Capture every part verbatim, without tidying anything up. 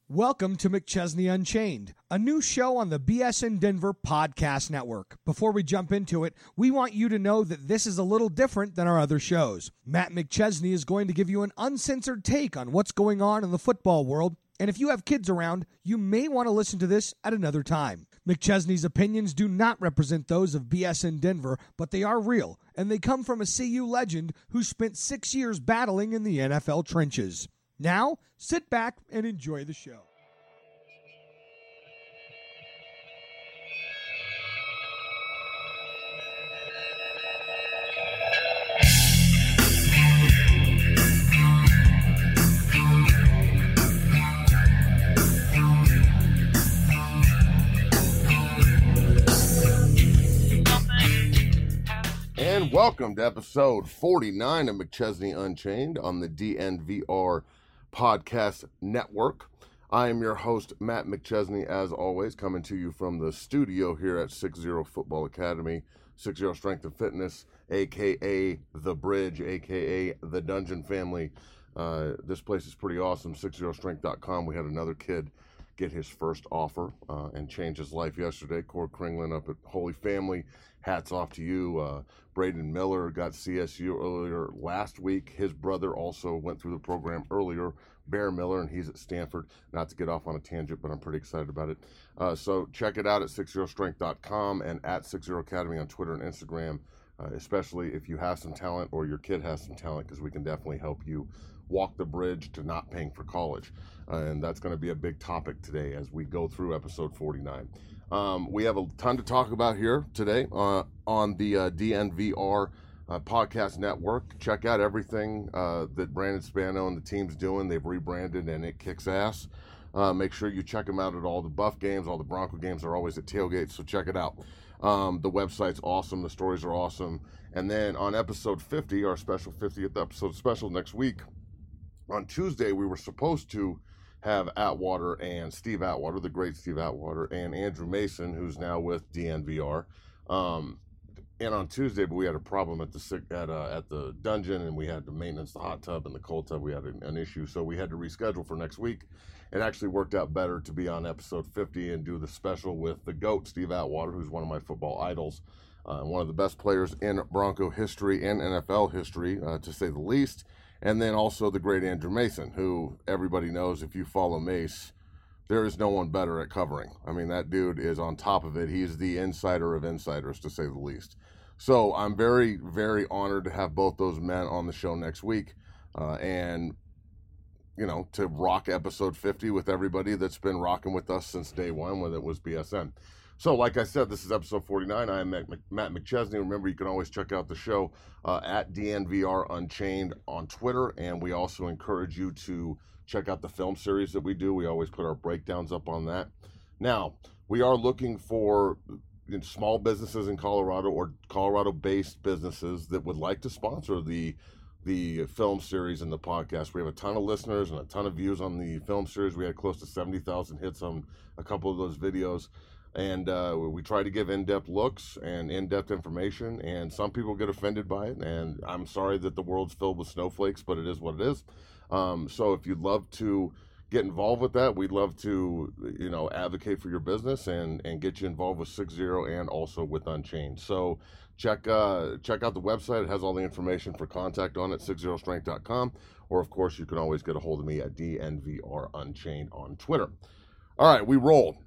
Welcome to McChesney Unchained, a new show on the B S N Denver Podcast Network. Before we jump into it, we want you to know that this is a little different than our other shows. Matt McChesney is going to give you an uncensored take on what's going on in the football world, and if you have kids around, you may want to listen to this at another time. McChesney's opinions do not represent those of B S N Denver, but they are real, and they come from a C U legend who spent six years battling in the N F L trenches. Now, sit back and enjoy the show. And welcome to episode forty-nine of McChesney Unchained on the D N V R Podcast Network. I am your host, Matt McChesney, as always, coming to you from the studio here at six zero Football Academy, six zero Strength and Fitness, a k a. The Bridge, a k a. The Dungeon Family. Uh, this place is pretty awesome, six zero strength dot com. We had another kid get his first offer uh, and change his life yesterday. Cord Kringlin up at Holy Family. Hats off to you. Uh, Braden Miller got C S U earlier last week. His brother also went through the program earlier, Bear Miller, and he's at Stanford. Not to get off on a tangent, but I'm pretty excited about it. Uh, so check it out at six zero strength dot com and at six zero academy on Twitter and Instagram, uh, especially if you have some talent or your kid has some talent, because we can definitely help you walk the bridge to not paying for college. Uh, and that's going to be a big topic today as we go through episode forty-nine. Um, we have a ton to talk about here today uh, on the uh, D N V R uh, Podcast Network. Check out everything uh, that Brandon Spano and the team's doing. They've rebranded and it kicks ass. Uh, make sure you check them out at all the Buff games. All the Bronco games are always at tailgates, so check it out. Um, the website's awesome. The stories are awesome. And then on episode fifty, our special fiftieth episode special next week, on Tuesday, we were supposed to have Atwater and Steve Atwater, the great Steve Atwater, and Andrew Mason, who's now with D N V R. Um, and on Tuesday, but we had a problem at the at uh, at the dungeon, and we had to maintenance the hot tub and the cold tub. We had an, an issue, so we had to reschedule for next week. It actually worked out better to be on episode fifty and do the special with the GOAT, Steve Atwater, who's one of my football idols, uh, one of the best players in Bronco history and N F L history, uh, to say the least. And then also the great Andrew Mason, who everybody knows, if you follow Mace, there is no one better at covering. I mean, that dude is on top of it. He's the insider of insiders, to say the least. So I'm very, very honored to have both those men on the show next week uh, and, you know, to rock episode fifty with everybody that's been rocking with us since day one when it was B S N. So, like I said, this is episode forty-nine. I am Matt McChesney. Remember, you can always check out the show uh, at D N V R Unchained on Twitter, and we also encourage you to check out the film series that we do. We always put our breakdowns up on that. Now, we are looking for you know, small businesses in Colorado or Colorado-based businesses that would like to sponsor the the film series and the podcast. We have a ton of listeners and a ton of views on the film series. We had close to seventy thousand hits on a couple of those videos. And uh, we try to give in-depth looks and in-depth information, and some people get offended by it, and I'm sorry that the world's filled with snowflakes, but it is what it is. Um, so if you'd love to get involved with that, we'd love to, you know, advocate for your business and, and get you involved with six zero and also with Unchained. So check uh, check out the website. It has all the information for contact on it, six zero strength dot com, or of course you can always get a hold of me at D N V R Unchained on Twitter. All right, we roll.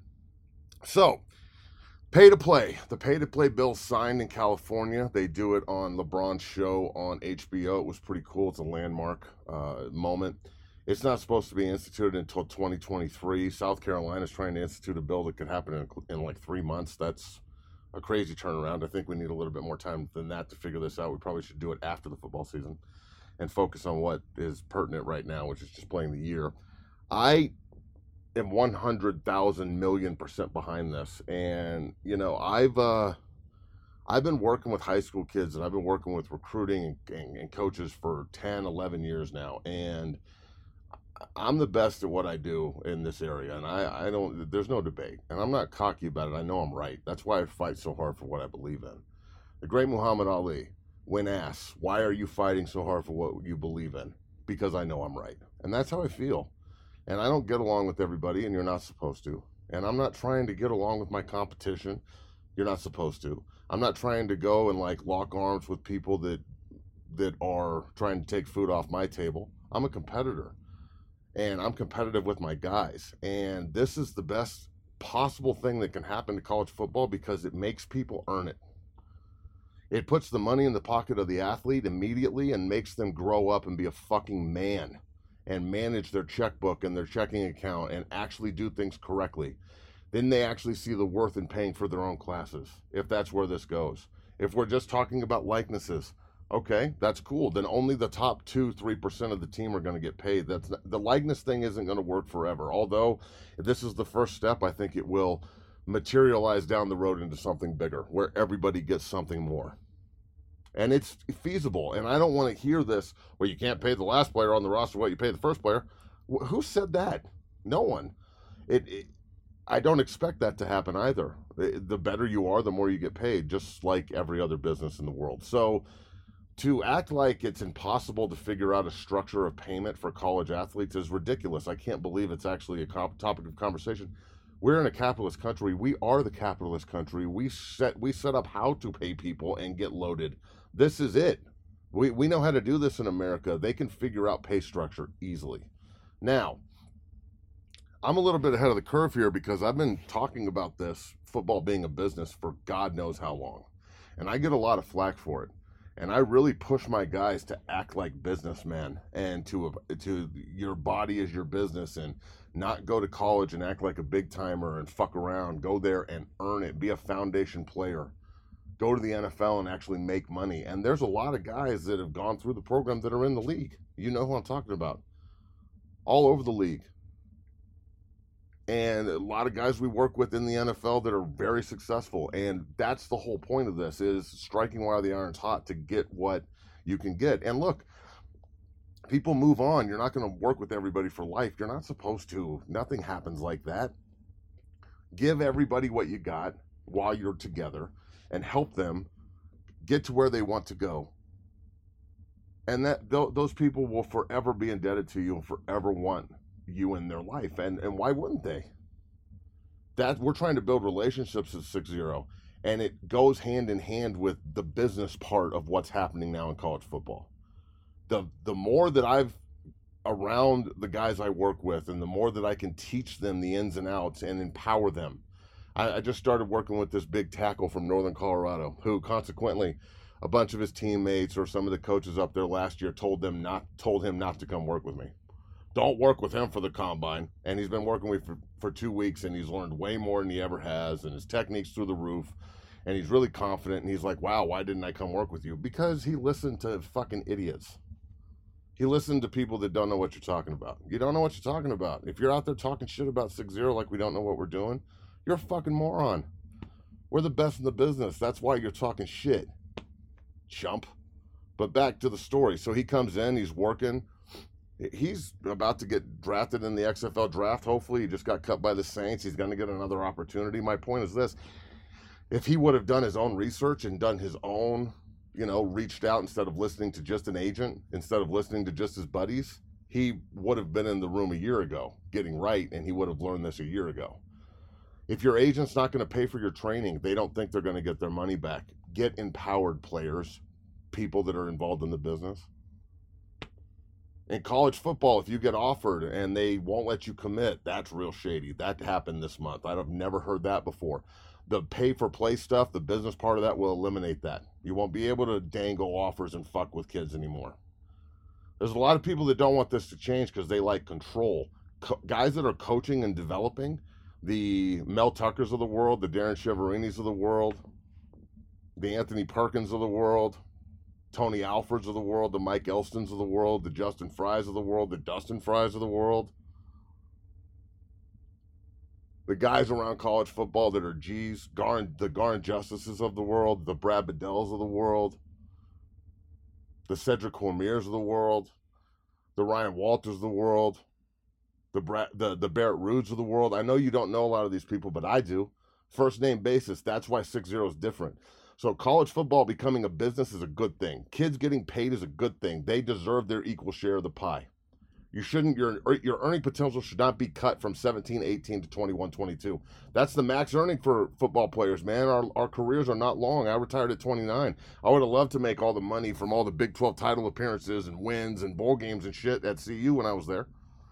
So, pay to play. The pay to play bill signed in California. They do it on LeBron's show on H B O. It was pretty cool. It's a landmark uh, moment. It's not supposed to be instituted until twenty twenty-three. South Carolina is trying to institute a bill that could happen in, in like three months. That's a crazy turnaround. I think we need a little bit more time than that to figure this out. We probably should do it after the football season and focus on what is pertinent right now, which is just playing the year. I am one hundred thousand million percent behind this. And, you know, I've, uh, I've been working with high school kids and I've been working with recruiting and, and, and coaches for ten, eleven years now. And I'm the best at what I do in this area. And I, I don't, there's no debate. And I'm not cocky about it. I know I'm right. That's why I fight so hard for what I believe in. The great Muhammad Ali, when asked, why are you fighting so hard for what you believe in? Because I know I'm right. And that's how I feel. And I don't get along with everybody, and you're not supposed to. And I'm not trying to get along with my competition. You're not supposed to. I'm not trying to go and like lock arms with people that that are trying to take food off my table. I'm a competitor, and I'm competitive with my guys. And this is the best possible thing that can happen to college football because it makes people earn it. It puts the money in the pocket of the athlete immediately and makes them grow up and be a fucking man and manage their checkbook and their checking account and actually do things correctly. Then they actually see the worth in paying for their own classes, if that's where this goes. If we're just talking about likenesses, okay, that's cool. Then only the top two, three percent of the team are going to get paid. That's not, the likeness thing isn't going to work forever. Although, if this is the first step, I think it will materialize down the road into something bigger, where everybody gets something more. And it's feasible. And I don't want to hear this, well, you can't pay the last player on the roster what you pay the first player. Who said that? No one. It, it I don't expect that to happen either. The better you are, the more you get paid, just like every other business in the world. So to act like it's impossible to figure out a structure of payment for college athletes is ridiculous. I can't believe it's actually a topic of conversation. We're in a capitalist country. We are the capitalist country. We set we set up how to pay people and get loaded. This is it. We we know how to do this in America. They can figure out pay structure easily. Now, I'm a little bit ahead of the curve here because I've been talking about this, football being a business, for God knows how long. And I get a lot of flack for it. And I really push my guys to act like businessmen and to to your body is your business and not go to college and act like a big timer and fuck around. Go there and earn it. Be a foundation player. Go to the N F L and actually make money. And there's a lot of guys that have gone through the program that are in the league. You know who I'm talking about. All over the league. And a lot of guys we work with in the N F L that are very successful. And that's the whole point of this, is striking while the iron's hot to get what you can get. And look, people move on. You're not going to work with everybody for life. You're not supposed to. Nothing happens like that. Give everybody what you got while you're together and help them get to where they want to go. And that th- those people will forever be indebted to you and forever want you in their life. And and why wouldn't they? That we're trying to build relationships at six zero, and it goes hand in hand with the business part of what's happening now in college football. The the more that I've around the guys I work with, and the more that I can teach them the ins and outs and empower them. I, I just started working with this big tackle from Northern Colorado, who consequently a bunch of his teammates or some of the coaches up there last year told them not told him not to come work with me. Don't work with him for the combine. And he's been working with me for, for two weeks, and he's learned way more than he ever has, and his technique's through the roof, and he's really confident, and he's like, wow, why didn't I come work with you? Because he listened to fucking idiots. He listened to people that don't know what you're talking about. You don't know what you're talking about. If you're out there talking shit about six zero like we don't know what we're doing, you're a fucking moron. We're the best in the business. That's why you're talking shit, chump. But back to the story. So he comes in, he's working. He's about to get drafted in the X F L draft. Hopefully, he just got cut by the Saints. He's going to get another opportunity. My point is this. If he would have done his own research and done his own, you know, reached out instead of listening to just an agent, instead of listening to just his buddies, he would have been in the room a year ago getting right, and he would have learned this a year ago. If your agent's not going to pay for your training, they don't think they're going to get their money back. Get empowered players, people that are involved in the business. In college football, if you get offered and they won't let you commit, that's real shady. That happened this month. I've never heard that before. The pay-for-play stuff, the business part of that will eliminate that. You won't be able to dangle offers and fuck with kids anymore. There's a lot of people that don't want this to change because they like control. Co- guys that are coaching and developing, the Mel Tuckers of the world, the Darren Cheverinis of the world, the Anthony Perkins of the world, Tony Alfords of the world, the Mike Elstons of the world, the Justin Fries of the world, the Dustin Fries of the world. The guys around college football that are G's, Garn, the Garn Justices of the world, the Brad Bedells of the world, the Cedric Cormiers of the world, the Ryan Walters of the world, the Brad, the, the Barrett Rudes of the world. I know you don't know a lot of these people, but I do. First name basis, that's why six zero is different. So college football becoming a business is a good thing. Kids getting paid is a good thing. They deserve their equal share of the pie. You shouldn't, your your earning potential should not be cut from seventeen, eighteen to twenty-one, twenty-two. That's the max earning for football players, man. Our our careers are not long. I retired at twenty-nine. I would have loved to make all the money from all the Big twelve title appearances and wins and bowl games and shit at C U when I was there.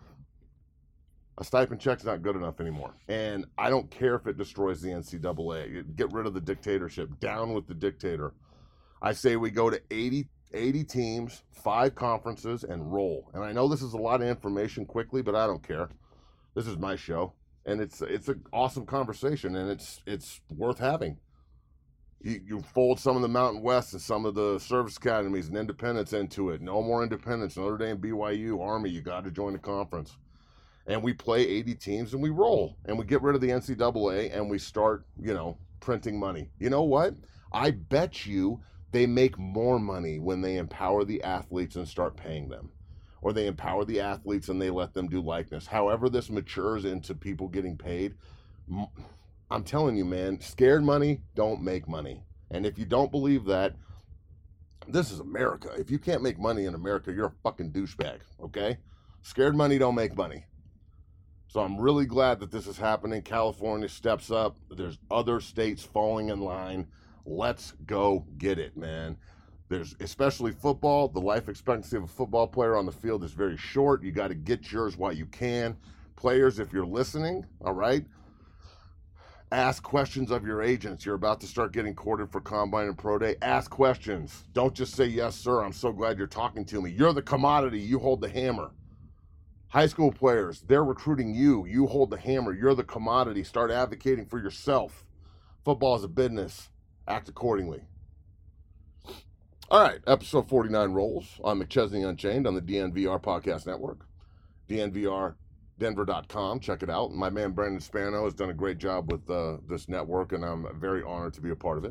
A stipend check's not good enough anymore. And I don't care if it destroys the N C double A. Get rid of the dictatorship. Down with the dictator. I say we go to eighty, eighty teams, five conferences, and roll. And I know this is a lot of information quickly, but I don't care. This is my show. And it's it's an awesome conversation, and it's it's worth having. You, you fold some of the Mountain West and some of the service academies and independents into it. No more independents. Notre Dame, B Y U, Army, you got to join the conference. And we play eighty teams and we roll. And we get rid of the N C double A and we start, you know, printing money. You know what? I bet you they make more money when they empower the athletes and start paying them. Or they empower the athletes and they let them do likeness. However this matures into people getting paid, I'm telling you, man, scared money don't make money. And if you don't believe that, this is America. If you can't make money in America, you're a fucking douchebag, okay? Scared money don't make money. So I'm really glad that this is happening. California steps up. There's other states falling in line. Let's go get it, man. There's, especially football, the life expectancy of a football player on the field is very short. You got to get yours while you can. Players, if you're listening, all right, ask questions of your agents. You're about to start getting courted for Combine and Pro Day. Ask questions. Don't just say, yes, sir, I'm so glad you're talking to me. You're the commodity. You hold the hammer. High school players, they're recruiting you. You hold the hammer. You're the commodity. Start advocating for yourself. Football is a business. Act accordingly. All right, episode forty-nine rolls on McChesney Unchained on the D N V R Podcast Network. D N V R Denver dot com. Check it out. My man Brandon Spano has done a great job with uh, this network, and I'm very honored to be a part of it.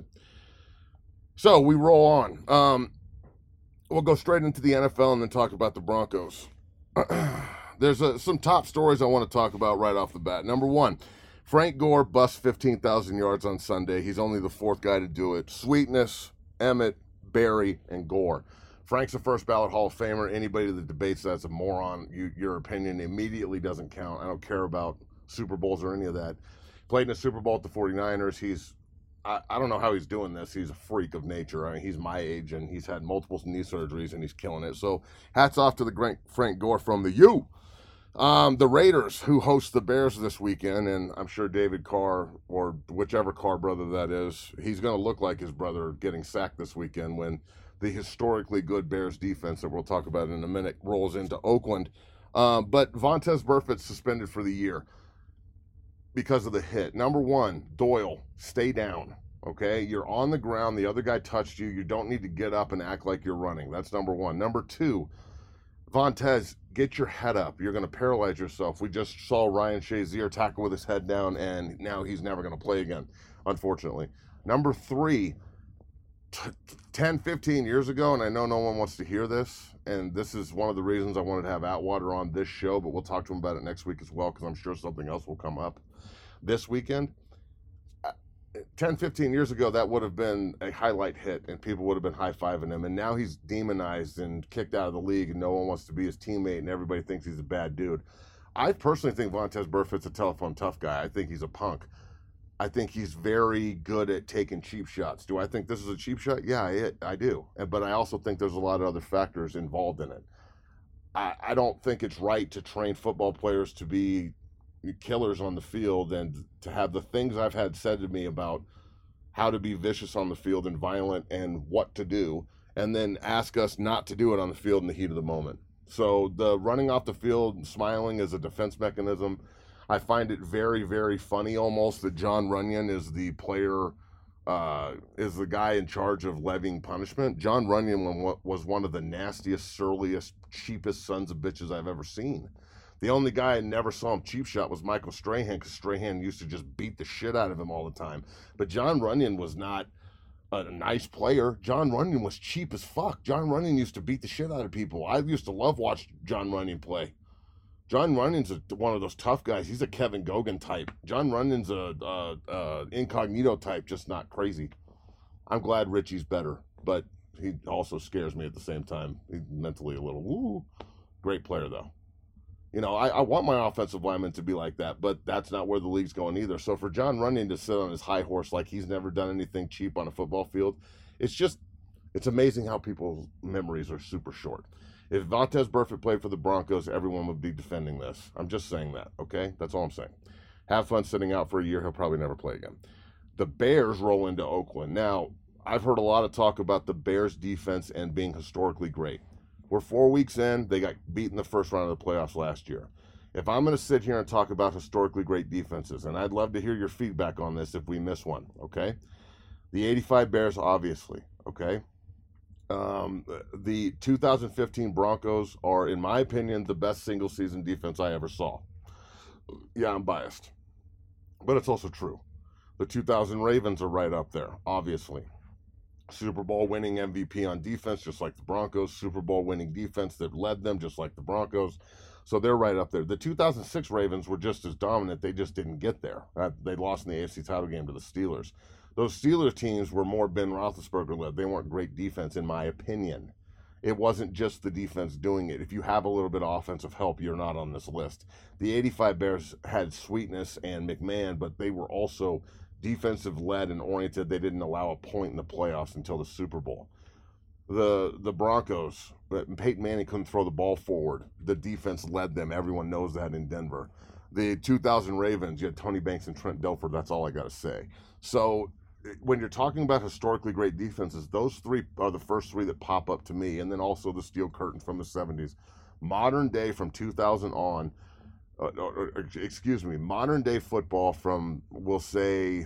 So we roll on. Um, we'll go straight into the N F L and then talk about the Broncos. There's uh, some top stories I want to talk about right off the bat. Number one, Frank Gore busts fifteen thousand yards on Sunday. He's only the fourth guy to do it. Sweetness, Emmett, Barry, and Gore. Frank's a first ballot Hall of Famer. Anybody that debates that's a moron. You, your opinion immediately doesn't count. I don't care about Super Bowls or any of that. Played in a Super Bowl at the forty-niners. He's, I, I don't know how he's doing this. He's a freak of nature. I mean, he's my age, and he's had multiple knee surgeries, and he's killing it. So hats off to the great Frank Gore from the U. Um, the Raiders, who host the Bears this weekend, and I'm sure David Carr, or whichever Carr brother that is, he's going to look like his brother getting sacked this weekend when the historically good Bears defense that we'll talk about in a minute rolls into Oakland. Um, but Vontaze Burfict suspended for the year because of the hit. Number one, Doyle, stay down, okay? You're on the ground. The other guy touched you. You don't need to get up and act like you're running. That's number one. Number two, Vontaze, get your head up. You're going to paralyze yourself. We just saw Ryan Shazier tackle with his head down, and now he's never going to play again, unfortunately. Number three, t- ten, fifteen years ago, and I know no one wants to hear this, and this is one of the reasons I wanted to have Atwater on this show, but we'll talk to him about it next week as well, because I'm sure something else will come up this weekend. ten, fifteen years ago, that would have been a highlight hit, and people would have been high-fiving him. And now he's demonized and kicked out of the league, and no one wants to be his teammate, and everybody thinks he's a bad dude. I personally think Vontaze Burfict's a telephone tough guy. I think he's a punk. I think he's very good at taking cheap shots. Do I think this is a cheap shot? Yeah, I, I do. But I also think there's a lot of other factors involved in it. I, I don't think it's right to train football players to be killers on the field and to have the things I've had said to me about how to be vicious on the field and violent and what to do, and then ask us not to do it on the field in the heat of the moment. So the running off the field and smiling is a defense mechanism. I find it very, very funny almost that Jon Runyan is the player, uh, is the guy in charge of levying punishment. Jon Runyan was one of the nastiest, surliest, cheapest sons of bitches I've ever seen. The only guy I never saw him cheap shot was Michael Strahan, because Strahan used to just beat the shit out of him all the time. But Jon Runyan was not a nice player. Jon Runyan was cheap as fuck. Jon Runyan used to beat the shit out of people. I used to love watch Jon Runyan play. Jon Runyon's a, one of those tough guys. He's a Kevin Gogan type. Jon Runyon's a, a, a incognito type, just not crazy. I'm glad Richie's better, but he also scares me at the same time. He's mentally a little, woo. Great player, though. You know, I, I want my offensive linemen to be like that, but that's not where the league's going either. So for Jon Runyan to sit on his high horse like he's never done anything cheap on a football field, it's just, it's amazing how people's memories are super short. If Vontaze Burfict played for the Broncos, everyone would be defending this. I'm just saying that, okay? That's all I'm saying. Have fun sitting out for a year. He'll probably never play again. The Bears roll into Oakland. Now, I've heard a lot of talk about the Bears' defense and being historically great. We're four weeks in. They got beat in the first round of the playoffs last year. If I'm going to sit here and talk about historically great defenses, and I'd love to hear your feedback on this if we miss one, okay? The eighty-five Bears, obviously, okay? Um, the two thousand fifteen Broncos are, in my opinion, the best single-season defense I ever saw. Yeah, I'm biased, but it's also true. The two thousand Ravens are right up there, obviously. Super Bowl winning M V P on defense, just like the Broncos. Super Bowl winning defense that led them, just like the Broncos. So they're right up there. The two thousand six Ravens were just as dominant. They just didn't get there. They lost in the A F C title game to the Steelers. Those Steelers teams were more Ben Roethlisberger led. They weren't great defense, in my opinion. It wasn't just the defense doing it. If you have a little bit of offensive help, you're not on this list. The eighty-five Bears had Sweetness and McMahon, but they were also defensive led and oriented. They didn't allow a point in the playoffs until the Super Bowl. The the Broncos, Peyton Manning couldn't throw the ball forward. The defense led them. Everyone knows that in Denver. The two thousand Ravens, you had Tony Banks and Trent Dilfer. That's all I got to say. So when you're talking about historically great defenses, those three are the first three that pop up to me, and then also the Steel Curtain from the seventies. Modern day from two thousand on, uh, or, or, excuse me, modern day football from, we'll say,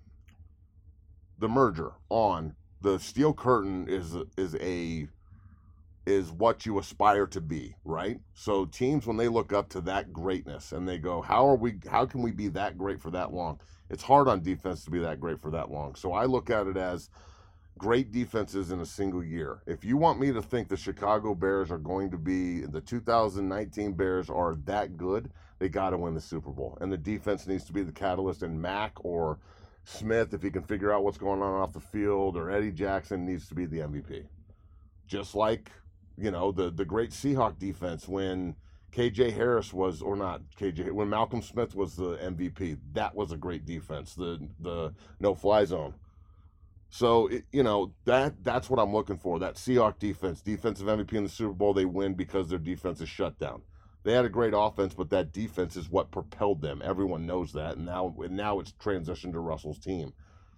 the merger on, the Steel Curtain is is a is what you aspire to be, right? So teams, when they look up to that greatness and they go, how are we, how can we be that great for that long? It's hard on defense to be that great for that long. So I look at it as great defenses in a single year. If you want me to think the Chicago Bears are going to be, the two thousand nineteen Bears are that good, they got to win the Super Bowl. And the defense needs to be the catalyst, and Mack or Smith, if he can figure out what's going on off the field, or Eddie Jackson needs to be the M V P. Just like, you know, the, the great Seahawk defense when K J Harris was, or not K J, when Malcolm Smith was the M V P, that was a great defense, the the no-fly zone. So, it, you know, that that's what I'm looking for, that Seahawk defense, defensive M V P in the Super Bowl. They win because their defense is shut down. They had a great offense, but that defense is what propelled them. Everyone knows that, and now, and now it's transitioned to Russell's team.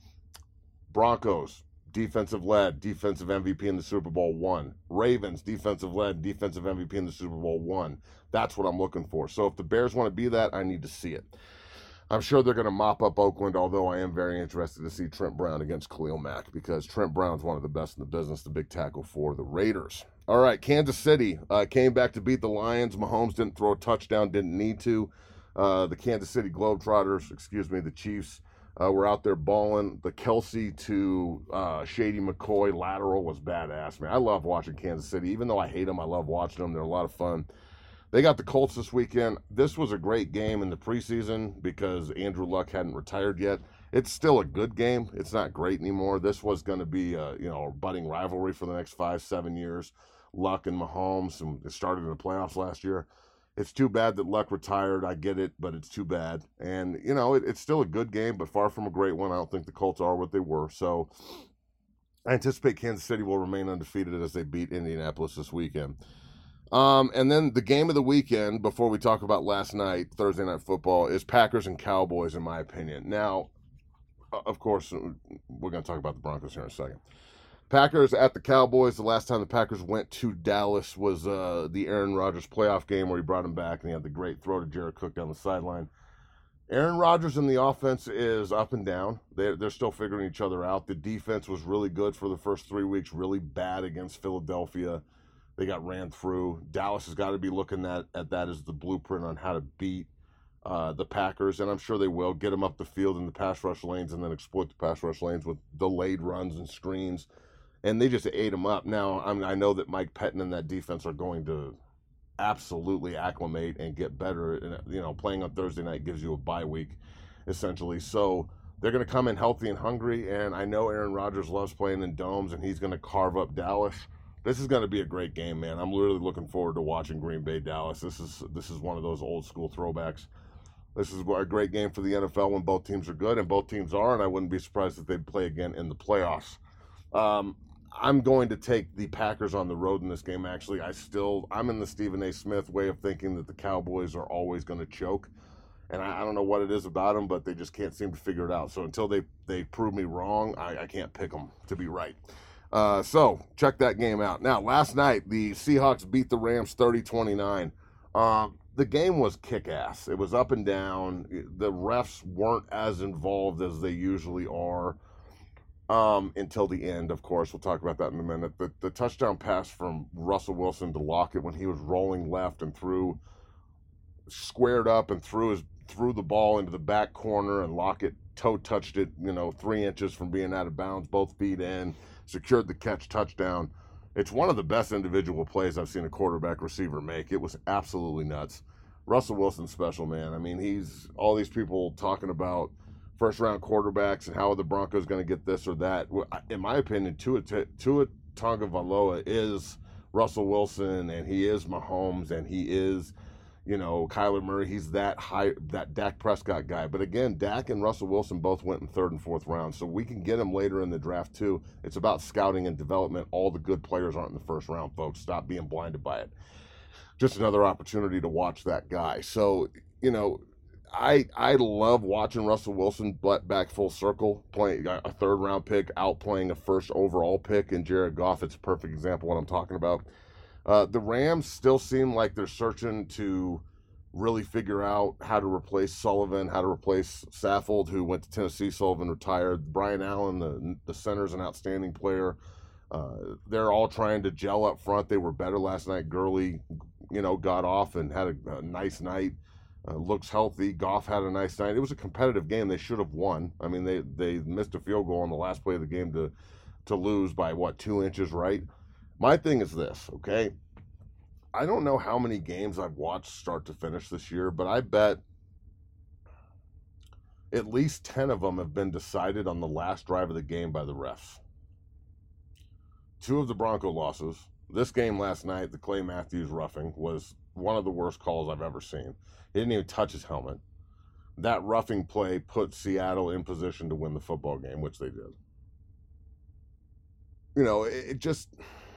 Broncos, defensive led, defensive M V P in the Super Bowl, won. Ravens, defensive led, defensive M V P in the Super Bowl, won. That's what I'm looking for. So if the Bears want to be that, I need to see it. I'm sure they're going to mop up Oakland, although I am very interested to see Trent Brown against Khalil Mack, because Trent Brown's one of the best in the business, the big tackle for the Raiders. All right, Kansas City uh, came back to beat the Lions. Mahomes didn't throw a touchdown, didn't need to. Uh, the Kansas City Globetrotters, excuse me, the Chiefs, uh, were out there balling. The Kelsey to uh, Shady McCoy lateral was badass, man. I love watching Kansas City. Even though I hate them, I love watching them. They're a lot of fun. They got the Colts this weekend. This was a great game in the preseason because Andrew Luck hadn't retired yet. It's still a good game. It's not great anymore. This was going to be a, you know, a budding rivalry for the next five, seven years. Luck and Mahomes, and it started in the playoffs last year. It's too bad that Luck retired. I get it, but it's too bad. And, you know, it, it's still a good game, but far from a great one. I don't think the Colts are what they were. So I anticipate Kansas City will remain undefeated as they beat Indianapolis this weekend. Um, and then the game of the weekend, before we talk about last night, Thursday Night Football, is Packers and Cowboys, in my opinion. Now, of course, we're going to talk about the Broncos here in a second. Packers at the Cowboys. The last time the Packers went to Dallas was uh, the Aaron Rodgers playoff game where he brought him back and he had the great throw to Jared Cook down the sideline. Aaron Rodgers in the offense is up and down. They're, they're still figuring each other out. The defense was really good for the first three weeks, really bad against Philadelphia. They got ran through. Dallas has got to be looking at, at that as the blueprint on how to beat uh, the Packers, and I'm sure they will. Get them up the field in the pass rush lanes and then exploit the pass rush lanes with delayed runs and screens. And they just ate them up. Now, I mean, I know that Mike Pettin and that defense are going to absolutely acclimate and get better. And, you know, playing on Thursday night gives you a bye week, essentially. So they're going to come in healthy and hungry, and I know Aaron Rodgers loves playing in domes, and he's going to carve up Dallas. this is going to be a great game, man. I'm really looking forward to watching Green Bay Dallas. This is this is one of those old school throwbacks. This is a great game for the N F L when both teams are good, and both teams are, and I wouldn't be surprised if they'd play again in the playoffs. Um, I'm going to take the Packers on the road in this game, actually. I still, I'm in the Stephen A. Smith way of thinking that the Cowboys are always going to choke. And I, I don't know what it is about them, but they just can't seem to figure it out. So until they, they prove me wrong, I, I can't pick them to be right. Uh, so check that game out. Now, last night, the Seahawks beat the Rams thirty twenty-nine. Uh, the game was kick-ass. It was up and down. The refs weren't as involved as they usually are um, until the end, of course. We'll talk about that in a minute. The, the touchdown pass from Russell Wilson to Lockett when he was rolling left and threw, squared up and threw his threw the ball into the back corner, and Lockett toe touched it, you know, three inches from being out of bounds, both feet in, secured the catch, touchdown. It's one of the best individual plays I've seen a quarterback receiver make. It was absolutely nuts. Russell Wilson's special, man. I mean, he's all these people talking about first round quarterbacks and how the Broncos going to get this or that. In my opinion, Tua, Tua Tagovailoa is Russell Wilson, and he is Mahomes, and he is, you know, Kyler Murray. He's that high, that Dak Prescott guy. But again, Dak and Russell Wilson both went in third and fourth round, so we can get them later in the draft too. It's about scouting and development. All the good players aren't in the first round, folks. Stop being blinded by it. Just another opportunity to watch that guy. So, you know, I I love watching Russell Wilson, but back full circle, playing a third round pick, outplaying a first overall pick in Jared Goff. It's a perfect example of what I'm talking about. Uh, the Rams still seem like they're searching to really figure out how to replace Sullivan, how to replace Saffold, who went to Tennessee. Sullivan retired. Brian Allen, the the center's an outstanding player. Uh, they're all trying to gel up front. They were better last night. Gurley, you know, got off and had a, a nice night. Uh, looks healthy. Goff had a nice night. It was a competitive game. They should have won. I mean, they, they missed a field goal on the last play of the game to to lose by, what, two inches, right? My thing is this, okay? I don't know how many games I've watched start to finish this year, but I bet at least ten of them have been decided on the last drive of the game by the refs. Two of the Bronco losses. This game last night, the Clay Matthews roughing, was one of the worst calls I've ever seen. He didn't even touch his helmet. That roughing play put Seattle in position to win the football game, which they did. You know, it, it just...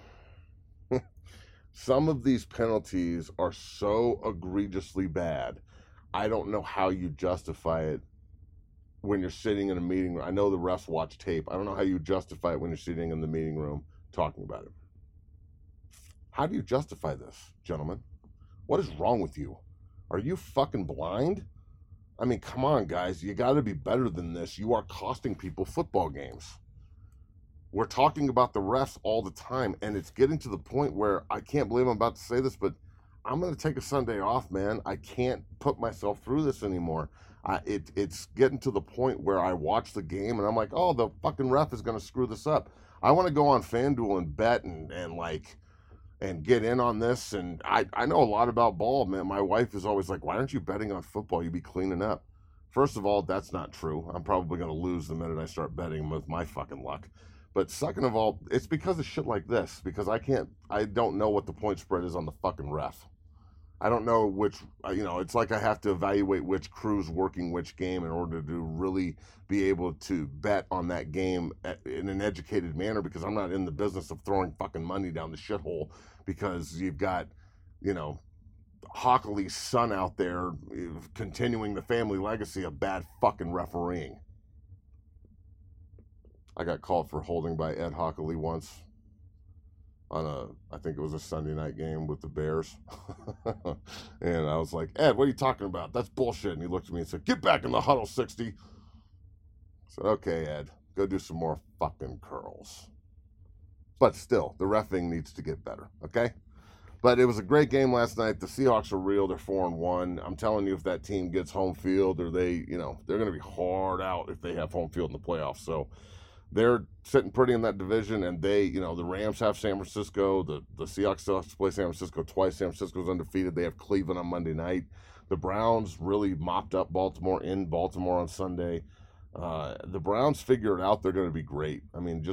Some of these penalties are so egregiously bad, I don't know how you justify it when you're sitting in a meeting room. I know the refs watch tape. I don't know how you justify it when you're sitting in the meeting room talking about it. How do you justify this, gentlemen? What is wrong with you? Are you fucking blind? I mean, come on, guys. You got to be better than this. You are costing people football games. We're talking about the refs all the time, and it's getting to the point where I can't believe I'm about to say this, but I'm going to take a Sunday off, man. I can't put myself through this anymore. I, it, it's getting to the point where I watch the game, and I'm like, oh, the fucking ref is going to screw this up. I want to go on FanDuel and bet and, and like, and get in on this, and I, I know a lot about ball, man. My wife is always like, why aren't you betting on football? You'd be cleaning up. First of all, that's not true. I'm probably going to lose the minute I start betting with my fucking luck. But second of all, it's because of shit like this, because I can't, I don't know what the point spread is on the fucking ref. I don't know which, you know, it's like I have to evaluate which crew's working which game in order to really be able to bet on that game in an educated manner, because I'm not in the business of throwing fucking money down the shithole because you've got, you know, Hockley's son out there continuing the family legacy of bad fucking refereeing. I got called for holding by Ed Hockley once on a, I think it was a Sunday night game with the Bears. And I was like, Ed, what are you talking about? That's bullshit. And he looked at me and said, get back in the huddle, sixty. I said, okay, Ed, go do some more fucking curls. But still, the reffing needs to get better, okay? But it was a great game last night. The Seahawks are real. They're four and one. I'm telling you, if that team gets home field, or they, you know, they're going to be hard out if they have home field in the playoffs. So they're sitting pretty in that division, and they, you know, the Rams have San Francisco. The, the Seahawks still have to play San Francisco twice. San Francisco's undefeated. They have Cleveland on Monday night. The Browns really mopped up Baltimore in Baltimore on Sunday. Uh, the Browns figure it out. They're going to be great. I mean, just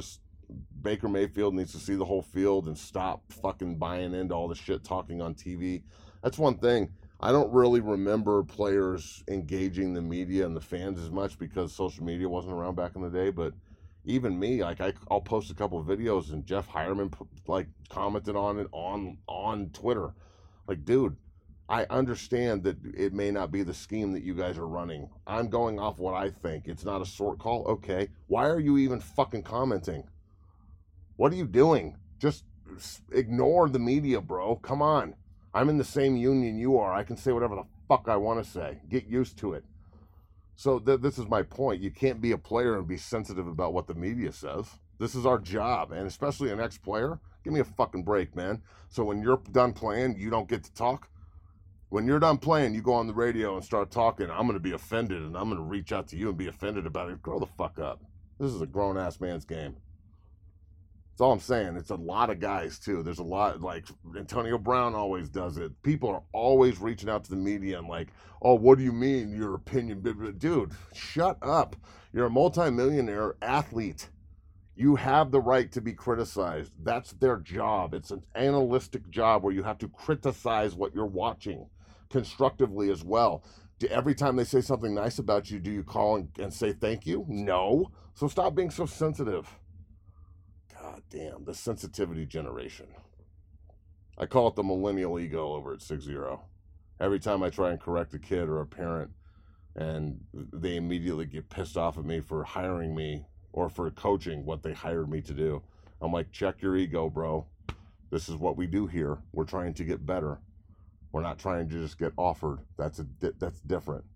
Baker Mayfield needs to see the whole field and stop fucking buying into all the shit talking on T V. That's one thing. I don't really remember players engaging the media and the fans as much because social media wasn't around back in the day. But even me, like I, I'll post a couple of videos and Jeff Hireman like commented on it on on Twitter. Like, dude, I understand that it may not be the scheme that you guys are running. I'm going off what I think. It's not a short call. Okay. Why are you even fucking commenting? What are you doing? Just ignore the media, bro. Come on. I'm in the same union you are. I can say whatever the fuck I want to say. Get used to it. So th- this is my point. You can't be a player and be sensitive about what the media says. This is our job, and especially an ex-player. Give me a fucking break, man. So when you're done playing, you don't get to talk. When you're done playing, you go on the radio and start talking. I'm going to be offended, and I'm going to reach out to you and be offended about it. Grow the fuck up. This is a grown-ass man's game. That's all I'm saying. It's a lot of guys, too. There's a lot, like, Antonio Brown always does it. People are always reaching out to the media and like, oh, what do you mean, your opinion? Dude, shut up. You're a multimillionaire athlete. You have the right to be criticized. That's their job. It's an analytic job where you have to criticize what you're watching constructively as well. Do, every time they say something nice about you, do you call and, and say thank you? No. So stop being so sensitive. God damn, the sensitivity generation. I call it the millennial ego over at six zero. Every time I try and correct a kid or a parent, and they immediately get pissed off at me for hiring me or for coaching what they hired me to do. I'm like, check your ego, bro. This is what we do here. We're trying to get better. We're not trying to just get offered. That's a that's different.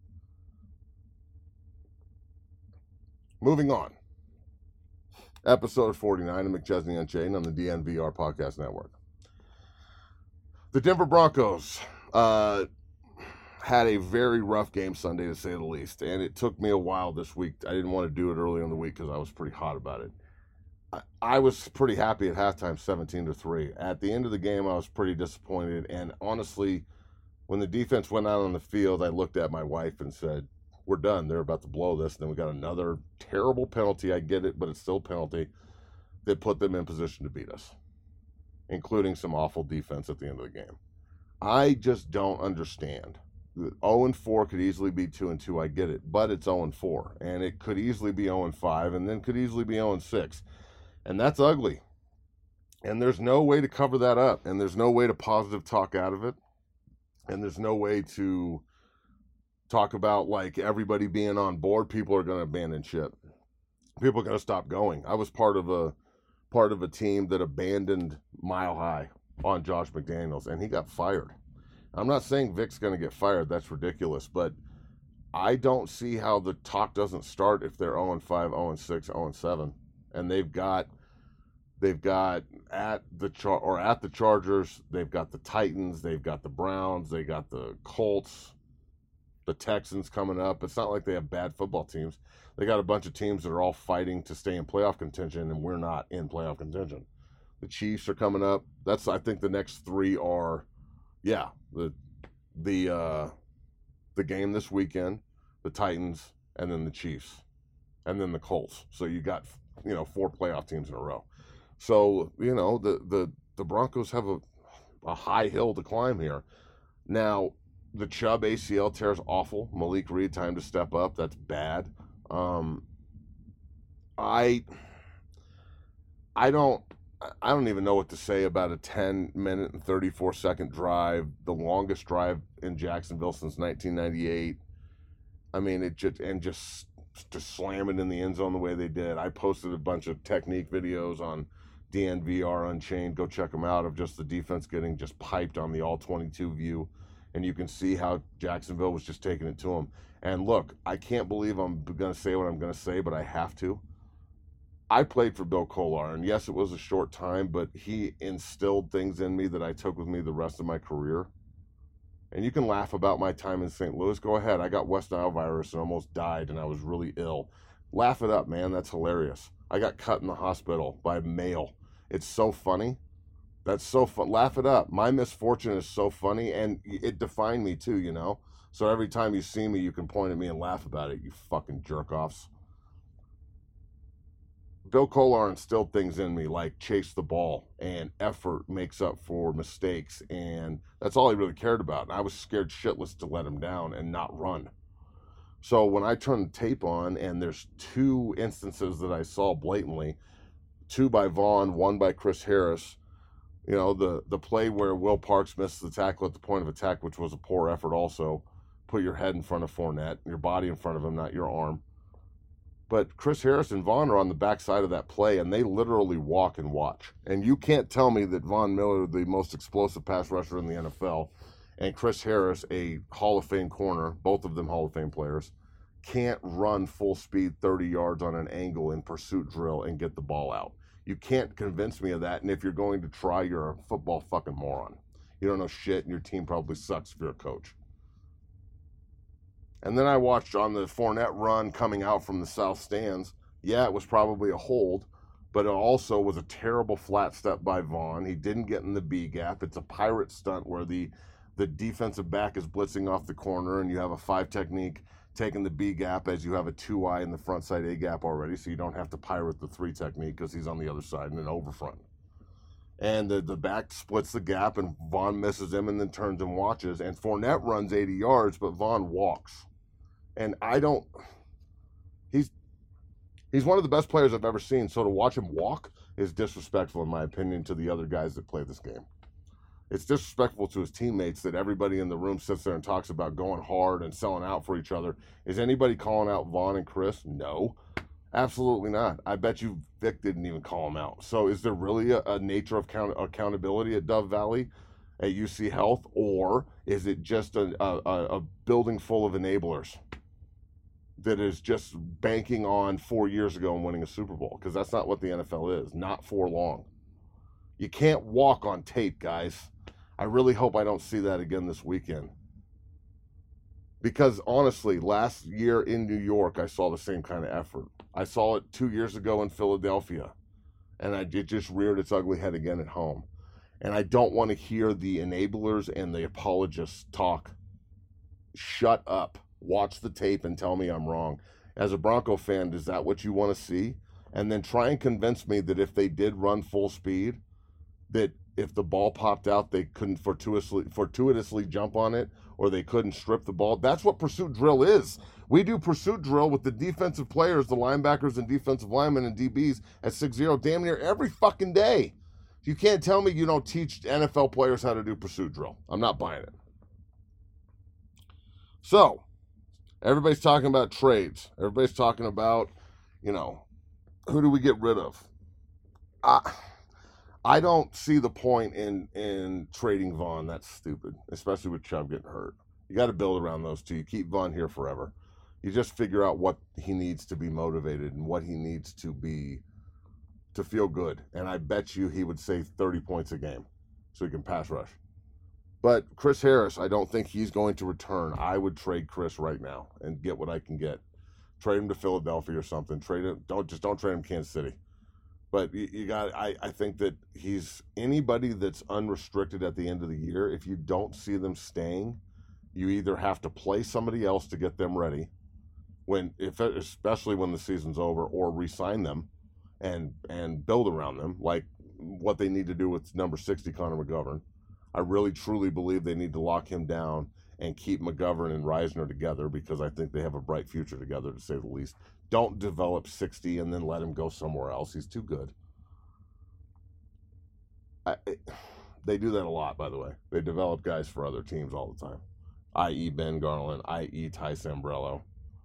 Moving on. Episode forty-nine of McChesney Unchained on the D N V R Podcast Network. The Denver Broncos uh, had a very rough game Sunday, to say the least, and it took me a while this week. I didn't want to do it early in the week because I was pretty hot about it. I, I was pretty happy at halftime, seventeen to three. At the end of the game, I was pretty disappointed, and honestly, when the defense went out on the field, I looked at my wife and said, we're done. They're about to blow this. And then we got another terrible penalty. I get it, but it's still a penalty that put them in position to beat us, including some awful defense at the end of the game. I just don't understand. oh and four could easily be two and two. I get it, but it's oh and four, and it could easily be oh and five, and then could easily be oh and six, and that's ugly. And there's no way to cover that up, and there's no way to positive talk out of it, and there's no way to talk about like everybody being on board. People are going to abandon ship. People are going to stop going. I was part of a part of a team that abandoned Mile High on Josh McDaniels, and he got fired. I'm not saying Vic's going to get fired. That's ridiculous, but I don't see how the talk doesn't start if they're oh and five, oh and six, oh and seven, and they've got they've got at the char- or at the Chargers, they've got the Titans, they've got the Browns, they got the Colts, the Texans coming up. It's not like they have bad football teams. They got a bunch of teams that are all fighting to stay in playoff contention, and we're not in playoff contention. The Chiefs are coming up. That's, I think, the next three are, yeah, the the uh, the game this weekend, the Titans, and then the Chiefs, and then the Colts. So you got, you know, four playoff teams in a row. So, you know, the the, the Broncos have a, a high hill to climb here. Now, the Chubb A C L tear is awful. Malik Reed, time to step up. That's bad. Um, I I don't I don't even know what to say about a ten minute and thirty-four second drive, the longest drive in Jacksonville since nineteen ninety-eight. I mean, it just and just to slam it in the end zone the way they did. I posted a bunch of technique videos on D N V R Unchained. Go check them out, of just the defense getting just piped on the all twenty-two view. And you can see how Jacksonville was just taking it to them. And look, I can't believe I'm going to say what I'm going to say, but I have to. I played for Bill Kollar, and yes, it was a short time, but he instilled things in me that I took with me the rest of my career. And you can laugh about my time in Saint Louis. Go ahead. I got West Nile virus and almost died, and I was really ill. Laugh it up, man. That's hilarious. I got cut in the hospital by mail. It's so funny. That's so fun. Laugh it up. My misfortune is so funny, and it defined me too, you know? So every time you see me, you can point at me and laugh about it, you fucking jerk-offs. Bill Kollar instilled things in me like chase the ball and effort makes up for mistakes, and that's all he really cared about. And I was scared shitless to let him down and not run. So when I turned the tape on, and there's two instances that I saw blatantly, two by Vaughn, one by Chris Harris. You know, the, the play where Will Parks missed the tackle at the point of attack, which was a poor effort also. Put your head in front of Fournette, your body in front of him, not your arm. But Chris Harris and Vaughn are on the backside of that play, and they literally walk and watch. And you can't tell me that Von Miller, the most explosive pass rusher in the N F L, and Chris Harris, a Hall of Fame corner, both of them Hall of Fame players, can't run full speed thirty yards on an angle in pursuit drill and get the ball out. You can't convince me of that, and if you're going to try, you're a football fucking moron. You don't know shit, and your team probably sucks if you're a coach. And then I watched on the Fournette run coming out from the south stands. Yeah, it was probably a hold, but it also was a terrible flat step by Vaughn. He didn't get in the B gap. It's a pirate stunt where the, the defensive back is blitzing off the corner, and you have a five technique taking the B gap as you have a two eye in the front side A gap already, so you don't have to pirate the three technique because he's on the other side and an over front. And the, the back splits the gap, and Vaughn misses him and then turns and watches. And Fournette runs eighty yards, but Vaughn walks. And I don't, he's, he's one of the best players I've ever seen. So to watch him walk is disrespectful, in my opinion, to the other guys that play this game. It's disrespectful to his teammates that everybody in the room sits there and talks about going hard and selling out for each other. Is anybody calling out Vaughn and Chris? No, absolutely not. I bet you Vic didn't even call him out. So is there really a, a nature of count, accountability at Dove Valley, at U C Health, or is it just a, a, a building full of enablers that is just banking on four years ago and winning a Super Bowl? Because that's not what the N F L is, not for long. You can't walk on tape, guys. I really hope I don't see that again this weekend. Because honestly, last year in New York, I saw the same kind of effort. I saw it two years ago in Philadelphia, and I, it just reared its ugly head again at home. And I don't want to hear the enablers and the apologists talk. Shut up. Watch the tape and tell me I'm wrong. As a Bronco fan, is that what you want to see? And then try and convince me that if they did run full speed, that if the ball popped out, they couldn't fortuitously, fortuitously jump on it, or they couldn't strip the ball. That's what pursuit drill is. We do pursuit drill with the defensive players, the linebackers and defensive linemen and D Bs at six zero damn near every fucking day. You can't tell me you don't teach N F L players how to do pursuit drill. I'm not buying it. So, everybody's talking about trades. Everybody's talking about, you know, who do we get rid of? I, I don't see the point in, in trading Vaughn. That's stupid, especially with Chubb getting hurt. You got to build around those two. You keep Vaughn here forever. You just figure out what he needs to be motivated and what he needs to be to feel good. And I bet you he would save thirty points a game so he can pass rush. But Chris Harris, I don't think he's going to return. I would trade Chris right now and get what I can get. Trade him to Philadelphia or something. Trade him. Don't just don't trade him Kansas City. But you, you got. I, I think that he's anybody that's unrestricted at the end of the year. If you don't see them staying, you either have to play somebody else to get them ready, when if especially when the season's over, or re-sign them, and and build around them like what they need to do with number sixty Connor McGovern. I really truly believe they need to lock him down and keep McGovern and Reisner together, because I think they have a bright future together, to say the least. Don't develop sixty and then let him go somewhere else. He's too good. I, it, they do that a lot, by the way. They develop guys for other teams all the time, that is. Ben Garland, that is. Ty Sambrello,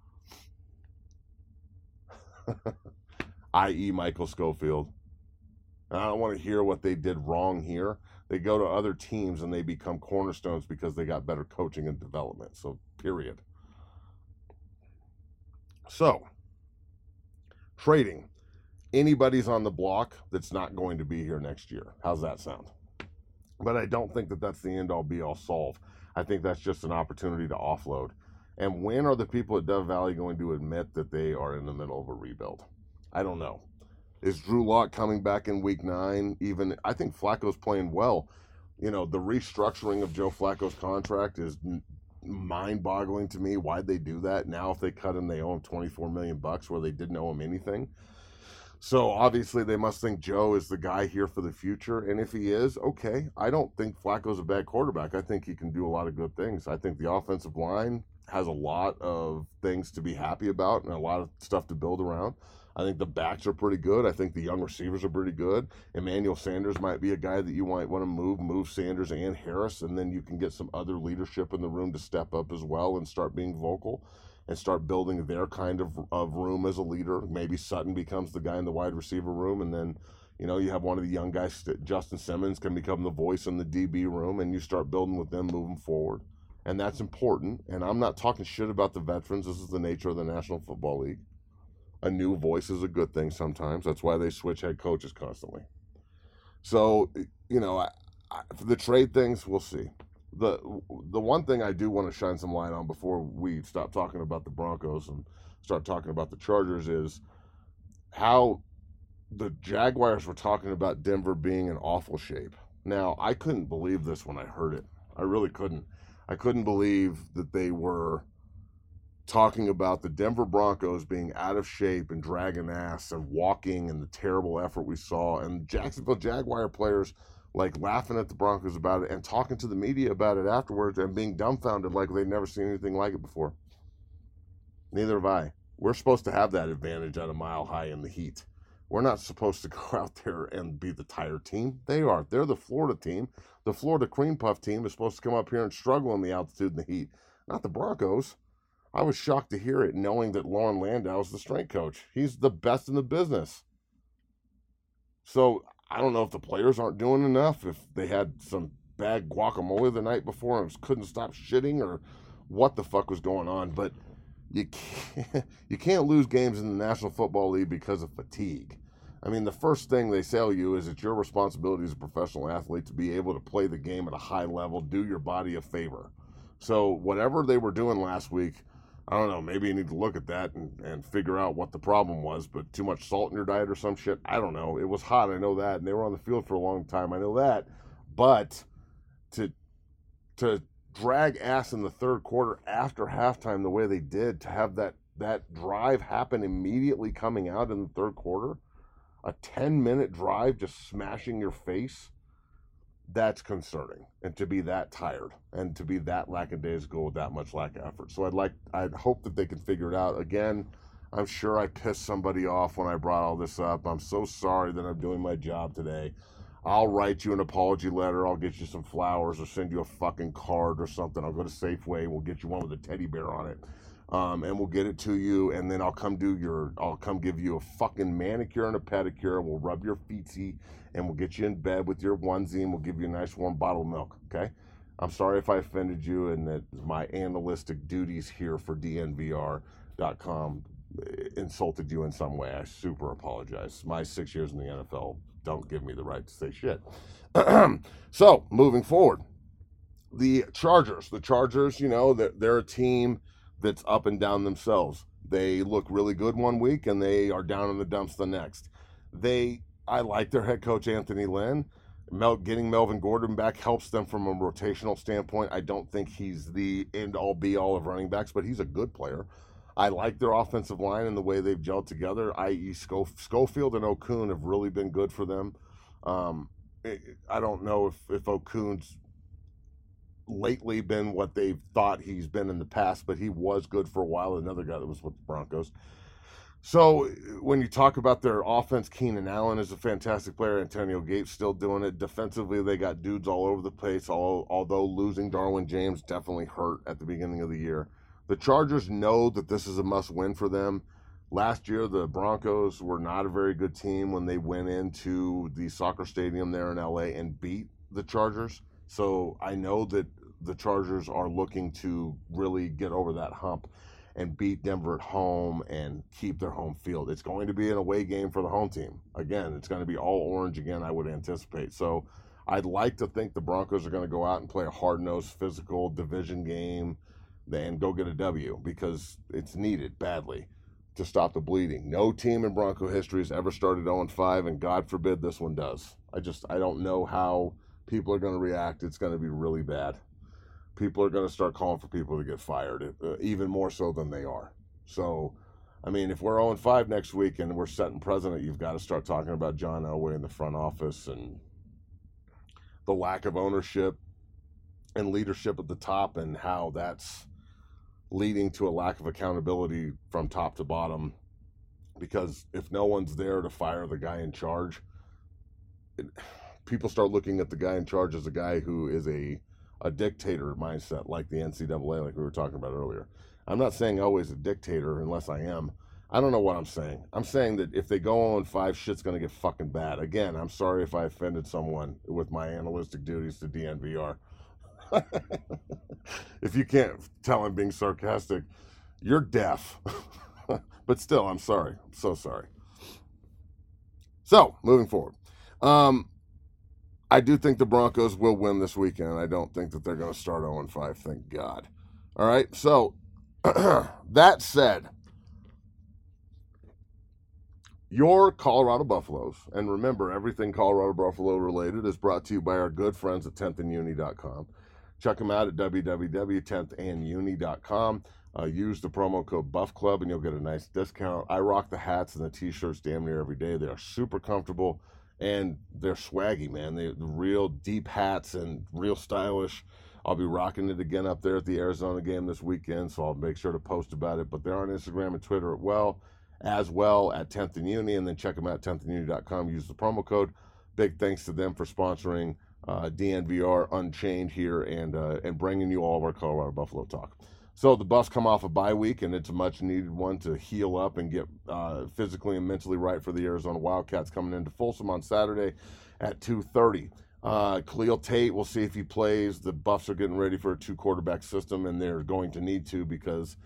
that is. Michael Schofield. And I don't want to hear what they did wrong here. They go to other teams and they become cornerstones because they got better coaching and development. So, period. So, trading. Anybody's on the block that's not going to be here next year. How's that sound? But I don't think that that's the end-all, be-all solve. I think that's just an opportunity to offload. And when are the people at Dove Valley going to admit that they are in the middle of a rebuild? I don't know. Is Drew Lock coming back in week nine? Even I think Flacco's playing well. You know, the restructuring of Joe Flacco's contract is mind-boggling to me. Why'd they do that? Now if they cut him, they owe him twenty-four million bucks where they didn't owe him anything. So obviously they must think Joe is the guy here for the future. And if he is, okay. I don't think Flacco's a bad quarterback. I think he can do a lot of good things. I think the offensive line has a lot of things to be happy about and a lot of stuff to build around. I think the backs are pretty good. I think the young receivers are pretty good. Emmanuel Sanders might be a guy that you might want to move, move Sanders and Harris, and then you can get some other leadership in the room to step up as well and start being vocal and start building their kind of, of room as a leader. Maybe Sutton becomes the guy in the wide receiver room, and then, you know, you have one of the young guys, Justin Simmons, can become the voice in the D B room, and you start building with them moving forward. And that's important. And I'm not talking shit about the veterans. This is the nature of the National Football League. A new voice is a good thing sometimes. That's why they switch head coaches constantly. So, you know, I, I, for the trade things, we'll see. The the one thing I do want to shine some light on before we stop talking about the Broncos and start talking about the Chargers is how the Jaguars were talking about Denver being in awful shape. Now, I couldn't believe this when I heard it. I really couldn't. I couldn't believe that they were talking about the Denver Broncos being out of shape and dragging ass and walking and the terrible effort we saw, and Jacksonville Jaguar players like laughing at the Broncos about it and talking to the media about it afterwards and being dumbfounded like they'd never seen anything like it before. Neither have I. We're supposed to have that advantage at a mile high in the heat. We're not supposed to go out there and be the tired team. They are. They're the Florida team. The Florida Cream Puff team is supposed to come up here and struggle in the altitude and the heat, not the Broncos. I was shocked to hear it, knowing that Lauren Landau is the strength coach. He's the best in the business. So I don't know if the players aren't doing enough, if they had some bad guacamole the night before and couldn't stop shitting, or what the fuck was going on. But you can't, you can't lose games in the National Football League because of fatigue. I mean, the first thing they tell you is it's your responsibility as a professional athlete to be able to play the game at a high level, do your body a favor. So whatever they were doing last week, I don't know, maybe you need to look at that and, and figure out what the problem was, but too much salt in your diet or some shit, I don't know. It was hot, I know that, and they were on the field for a long time, I know that. But to to drag ass in the third quarter after halftime the way they did, to have that, that drive happen immediately coming out in the third quarter, a ten-minute drive just smashing your face, that's concerning. And to be that tired and to be that lackadaisical with that much lack of effort. So I'd like, I'd hope that they can figure it out. Again, I'm sure I pissed somebody off when I brought all this up. I'm so sorry that I'm doing my job today. I'll write you an apology letter. I'll get you some flowers or send you a fucking card or something. I'll go to Safeway and we'll get you one with a teddy bear on it. Um, and we'll get it to you, and then I'll come do your, I'll come give you a fucking manicure and a pedicure. We'll rub your feetsy, and we'll get you in bed with your onesie, and we'll give you a nice warm bottle of milk, okay? I'm sorry if I offended you, and that my analytic duties here for D N V R dot com insulted you in some way. I super apologize. My six years in the N F L don't give me the right to say shit. So, moving forward, the Chargers. The Chargers, you know, they're, they're a team that's up and down themselves. They look really good one week and they are down in the dumps the next. They, I like their head coach, Anthony Lynn. Mel, getting Melvin Gordon back helps them from a rotational standpoint. I don't think he's the end-all, be-all of running backs, but he's a good player. I like their offensive line and the way they've gelled together, that is. Scof- Schofield and Okun have really been good for them. Um, I don't know if, if Okun's lately been what they've thought he's been in the past, but he was good for a while. Another guy that was with the Broncos. So when you talk about their offense, Keenan Allen is a fantastic player. Antonio Gates still doing it. Defensively, they got dudes all over the place, although losing Darwin James definitely hurt at the beginning of the year. The Chargers know that this is a must-win for them. Last year, the Broncos were not a very good team when they went into the soccer stadium there in L A and beat the Chargers. So I know that the Chargers are looking to really get over that hump and beat Denver at home and keep their home field. It's going to be an away game for the home team. Again, it's going to be all orange again, I would anticipate. So I'd like to think the Broncos are going to go out and play a hard-nosed, physical division game and go get a W, because it's needed badly to stop the bleeding. No team in Bronco history has ever started oh and five, and God forbid this one does. I just, I don't know how people are going to react. It's going to be really bad. People are going to start calling for people to get fired, uh, even more so than they are. So I mean, if we're oh and five next week and we're setting president, you've got to start talking about John Elway in the front office and the lack of ownership and leadership at the top and how that's leading to a lack of accountability from top to bottom. Because if no one's there to fire the guy in charge, it, people start looking at the guy in charge as a guy who is a, a dictator mindset, like the N C double A, like we were talking about earlier. I'm not saying always a dictator unless I am. I don't know what I'm saying. I'm saying that if they go oh and five, shit's going to get fucking bad. Again, I'm sorry if I offended someone with my analytic duties to D N V R. If you can't tell I'm being sarcastic, you're deaf. But still, I'm sorry. I'm so sorry. So, moving forward. Um, I do think the Broncos will win this weekend. I don't think that they're going to start oh and five, thank God. All right, so that said, your Colorado Buffaloes, and remember, everything Colorado Buffalo related is brought to you by our good friends at tenth and uni dot com. Check them out at w w w dot tenth and uni dot com. Uh, use the promo code Buff Club and you'll get a nice discount. I rock the hats and the t-shirts damn near every day. They are super comfortable and they're swaggy, man. They're real deep hats and real stylish. I'll be rocking it again up there at the Arizona game this weekend, so I'll make sure to post about it. But they're on Instagram and Twitter as well, as well at tenth and uni, and then check them out at tenth and uni dot com. Use the promo code. Big thanks to them for sponsoring uh, D N V R Unchained here and uh, and bringing you all of our Colorado Buffalo talk. So the Buffs come off a bye week, and it's a much-needed one to heal up and get uh, physically and mentally right for the Arizona Wildcats coming into Folsom on Saturday at two thirty. Uh, Khalil Tate, we'll see if he plays. The Buffs are getting ready for a two-quarterback system, and they're going to need to because,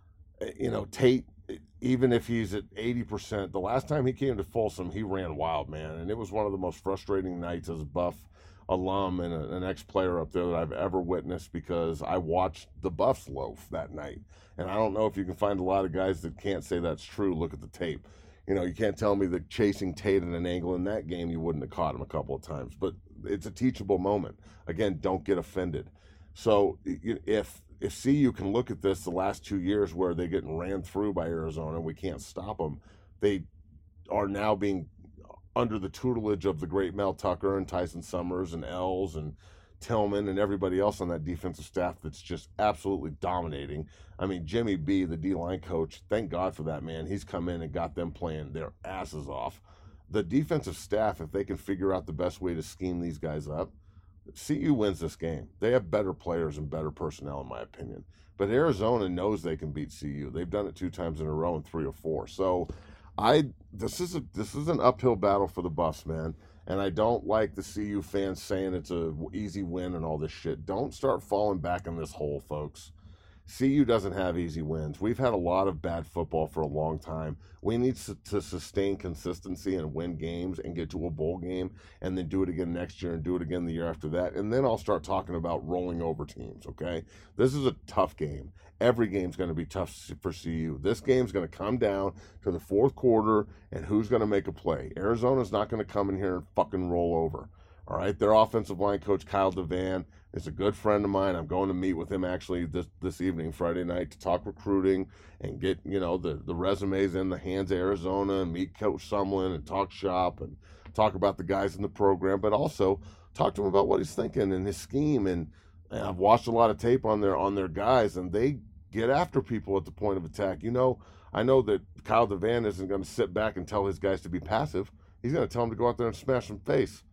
you know, Tate, even if he's at eighty percent, the last time he came to Folsom, he ran wild, man, and it was one of the most frustrating nights as a Buff alum and a, an ex-player up there that I've ever witnessed because I watched the Buffs loaf that night. And I don't know if you can find a lot of guys that can't say that's true. Look at the tape. You know, you can't tell me that chasing Tate at an angle in that game, you wouldn't have caught him a couple of times. But it's a teachable moment. Again, don't get offended. So if if C U can look at this the last two years where they're getting ran through by Arizona and we can't stop them, they are now being under the tutelage of the great Mel Tucker and Tyson Summers and Els and Tillman and everybody else on that defensive staff that's just absolutely dominating. I mean, Jimmy B, the D-line coach, thank God for that, man. He's come in and got them playing their asses off. The defensive staff, if they can figure out the best way to scheme these guys up, C U wins this game. They have better players and better personnel, in my opinion. But Arizona knows they can beat C U. They've done it two times in a row in three or four. So I this is a this is an uphill battle for the Buffs, man. And I don't like the C U fans saying it's a easy win and all this shit. Don't start falling back in this hole, folks. C U doesn't have easy wins. We've had a lot of bad football for a long time. We need to sustain consistency and win games and get to a bowl game and then do it again next year and do it again the year after that. And then I'll start talking about rolling over teams, okay? This is a tough game. Every game's going to be tough for C U. This game's going to come down to the fourth quarter and who's going to make a play. Arizona's not going to come in here and fucking roll over. All right, their offensive line coach, Kyle Devan, is a good friend of mine. I'm going to meet with him actually this, this evening, Friday night, to talk recruiting and get, you know, the, the resumes in the hands of Arizona and meet Coach Sumlin and talk shop and talk about the guys in the program, but also talk to him about what he's thinking and his scheme. And, and I've watched a lot of tape on their on their guys, and they get after people at the point of attack. You know, I know that Kyle Devan isn't going to sit back and tell his guys to be passive. He's going to tell them to go out there and smash them face.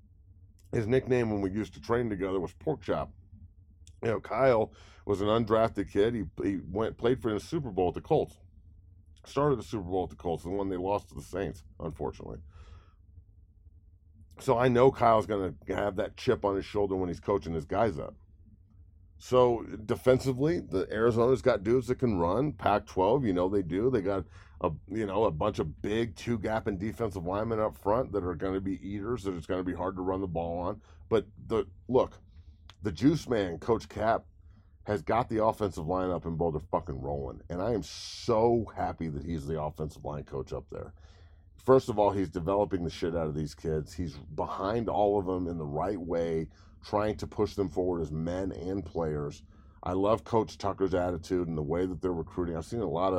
His nickname when we used to train together was Pork Chop. You know, Kyle was an undrafted kid. He he went played for the Super Bowl at the Colts. Started the Super Bowl at the Colts, the one they lost to the Saints, unfortunately. So I know Kyle's going to have that chip on his shoulder when he's coaching his guys up. So defensively, the Arizona's got dudes that can run. Pac twelve, you know they do. They got a you know a bunch of big two-gapping defensive linemen up front that are going to be eaters. That it's going to be hard to run the ball on. But the look, the juice man, Coach Cap, has got the offensive line up and Boulder fucking rolling. And I am so happy that he's the offensive line coach up there. First of all, he's developing the shit out of these kids. He's behind all of them in the right way, trying to push them forward as men and players. I love Coach Tucker's attitude and the way that they're recruiting. I've seen a lot of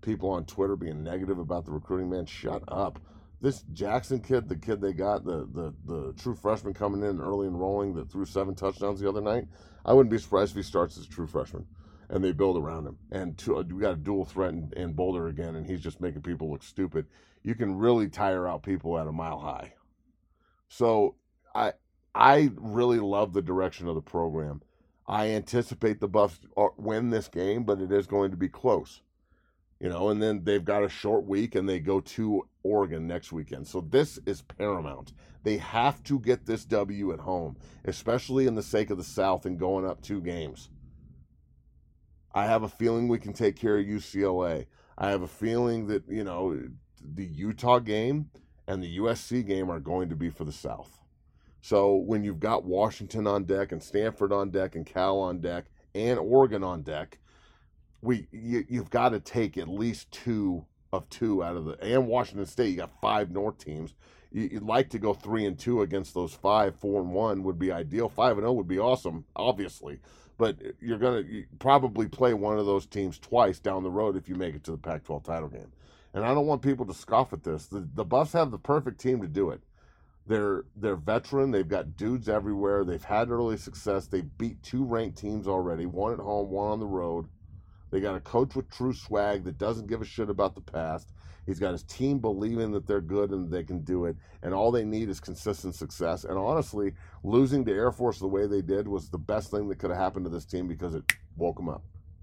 people on Twitter being negative about the recruiting, man, shut up. This Jackson kid, the kid they got, the the the true freshman coming in early enrolling that threw seven touchdowns the other night, I wouldn't be surprised if he starts as a true freshman and they build around him. And to, we got a dual threat in, in Boulder again, and he's just making people look stupid. You can really tire out people at a mile high. So I I really love the direction of the program. I anticipate the Buffs win this game, but it is going to be close. You know, and then they've got a short week and they go to Oregon next weekend. So this is paramount. They have to get this W at home, especially in the sake of the South and going up two games. I have a feeling we can take care of U C L A. I have a feeling that, you know, the Utah game and the U S C game are going to be for the South. So when you've got Washington on deck and Stanford on deck and Cal on deck and Oregon on deck, we you, you've got to take at least two of two out of the, and Washington State, you got five North teams. You, you'd like to go three and two against those five. Four and one would be ideal. Five and zero would be awesome, obviously. But you're gonna you probably play one of those teams twice down the road if you make it to the Pac twelve title game. And I don't want people to scoff at this. The, the Buffs have the perfect team to do it. They're they're veteran. They've got dudes everywhere. They've had early success. They beat two ranked teams already, one at home, one on the road. They got a coach with true swag that doesn't give a shit about the past. He's got his team believing that they're good and they can do it. And all they need is consistent success. And honestly, losing to Air Force the way they did was the best thing that could have happened to this team because it woke them up.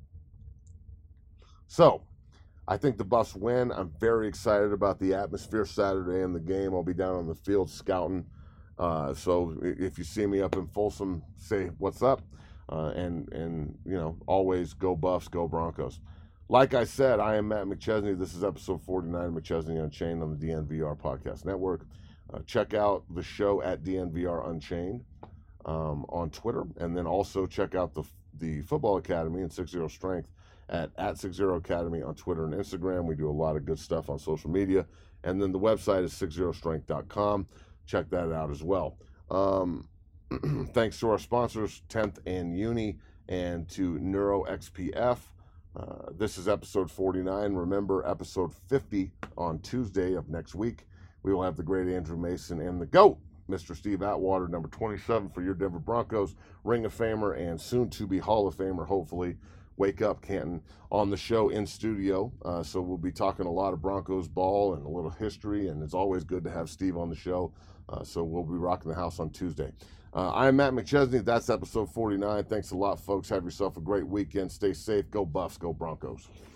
So, I think the Buffs win. I'm very excited about the atmosphere Saturday in the game. I'll be down on the field scouting. Uh, so if you see me up in Folsom, say what's up. Uh, and, and you know, always go Buffs, go Broncos. Like I said, I am Matt McChesney. This is episode forty-nine of McChesney Unchained on the D N V R Podcast Network. Uh, check out the show at D N V R Unchained um, on Twitter. And then also check out the the Football Academy and six zero Strength at, at six zero Academy on Twitter and Instagram. We do a lot of good stuff on social media. And then the website is six zero strength dot com. Check that out as well. Um, thanks to our sponsors, tenth and Uni, and to NeuroXPF. Uh, this is episode forty-nine. Remember, episode fifty on Tuesday of next week. We will have the great Andrew Mason and the GOAT, Mister Steve Atwater, number twenty-seven for your Denver Broncos, Ring of Famer and soon-to-be Hall of Famer, hopefully. Wake up, Canton, on the show in studio. Uh, so we'll be talking a lot of Broncos ball and a little history, and it's always good to have Steve on the show. Uh, so we'll be rocking the house on Tuesday. Uh, I'm Matt McChesney. That's episode forty-nine. Thanks a lot, folks. Have yourself a great weekend. Stay safe. Go Buffs. Go Broncos.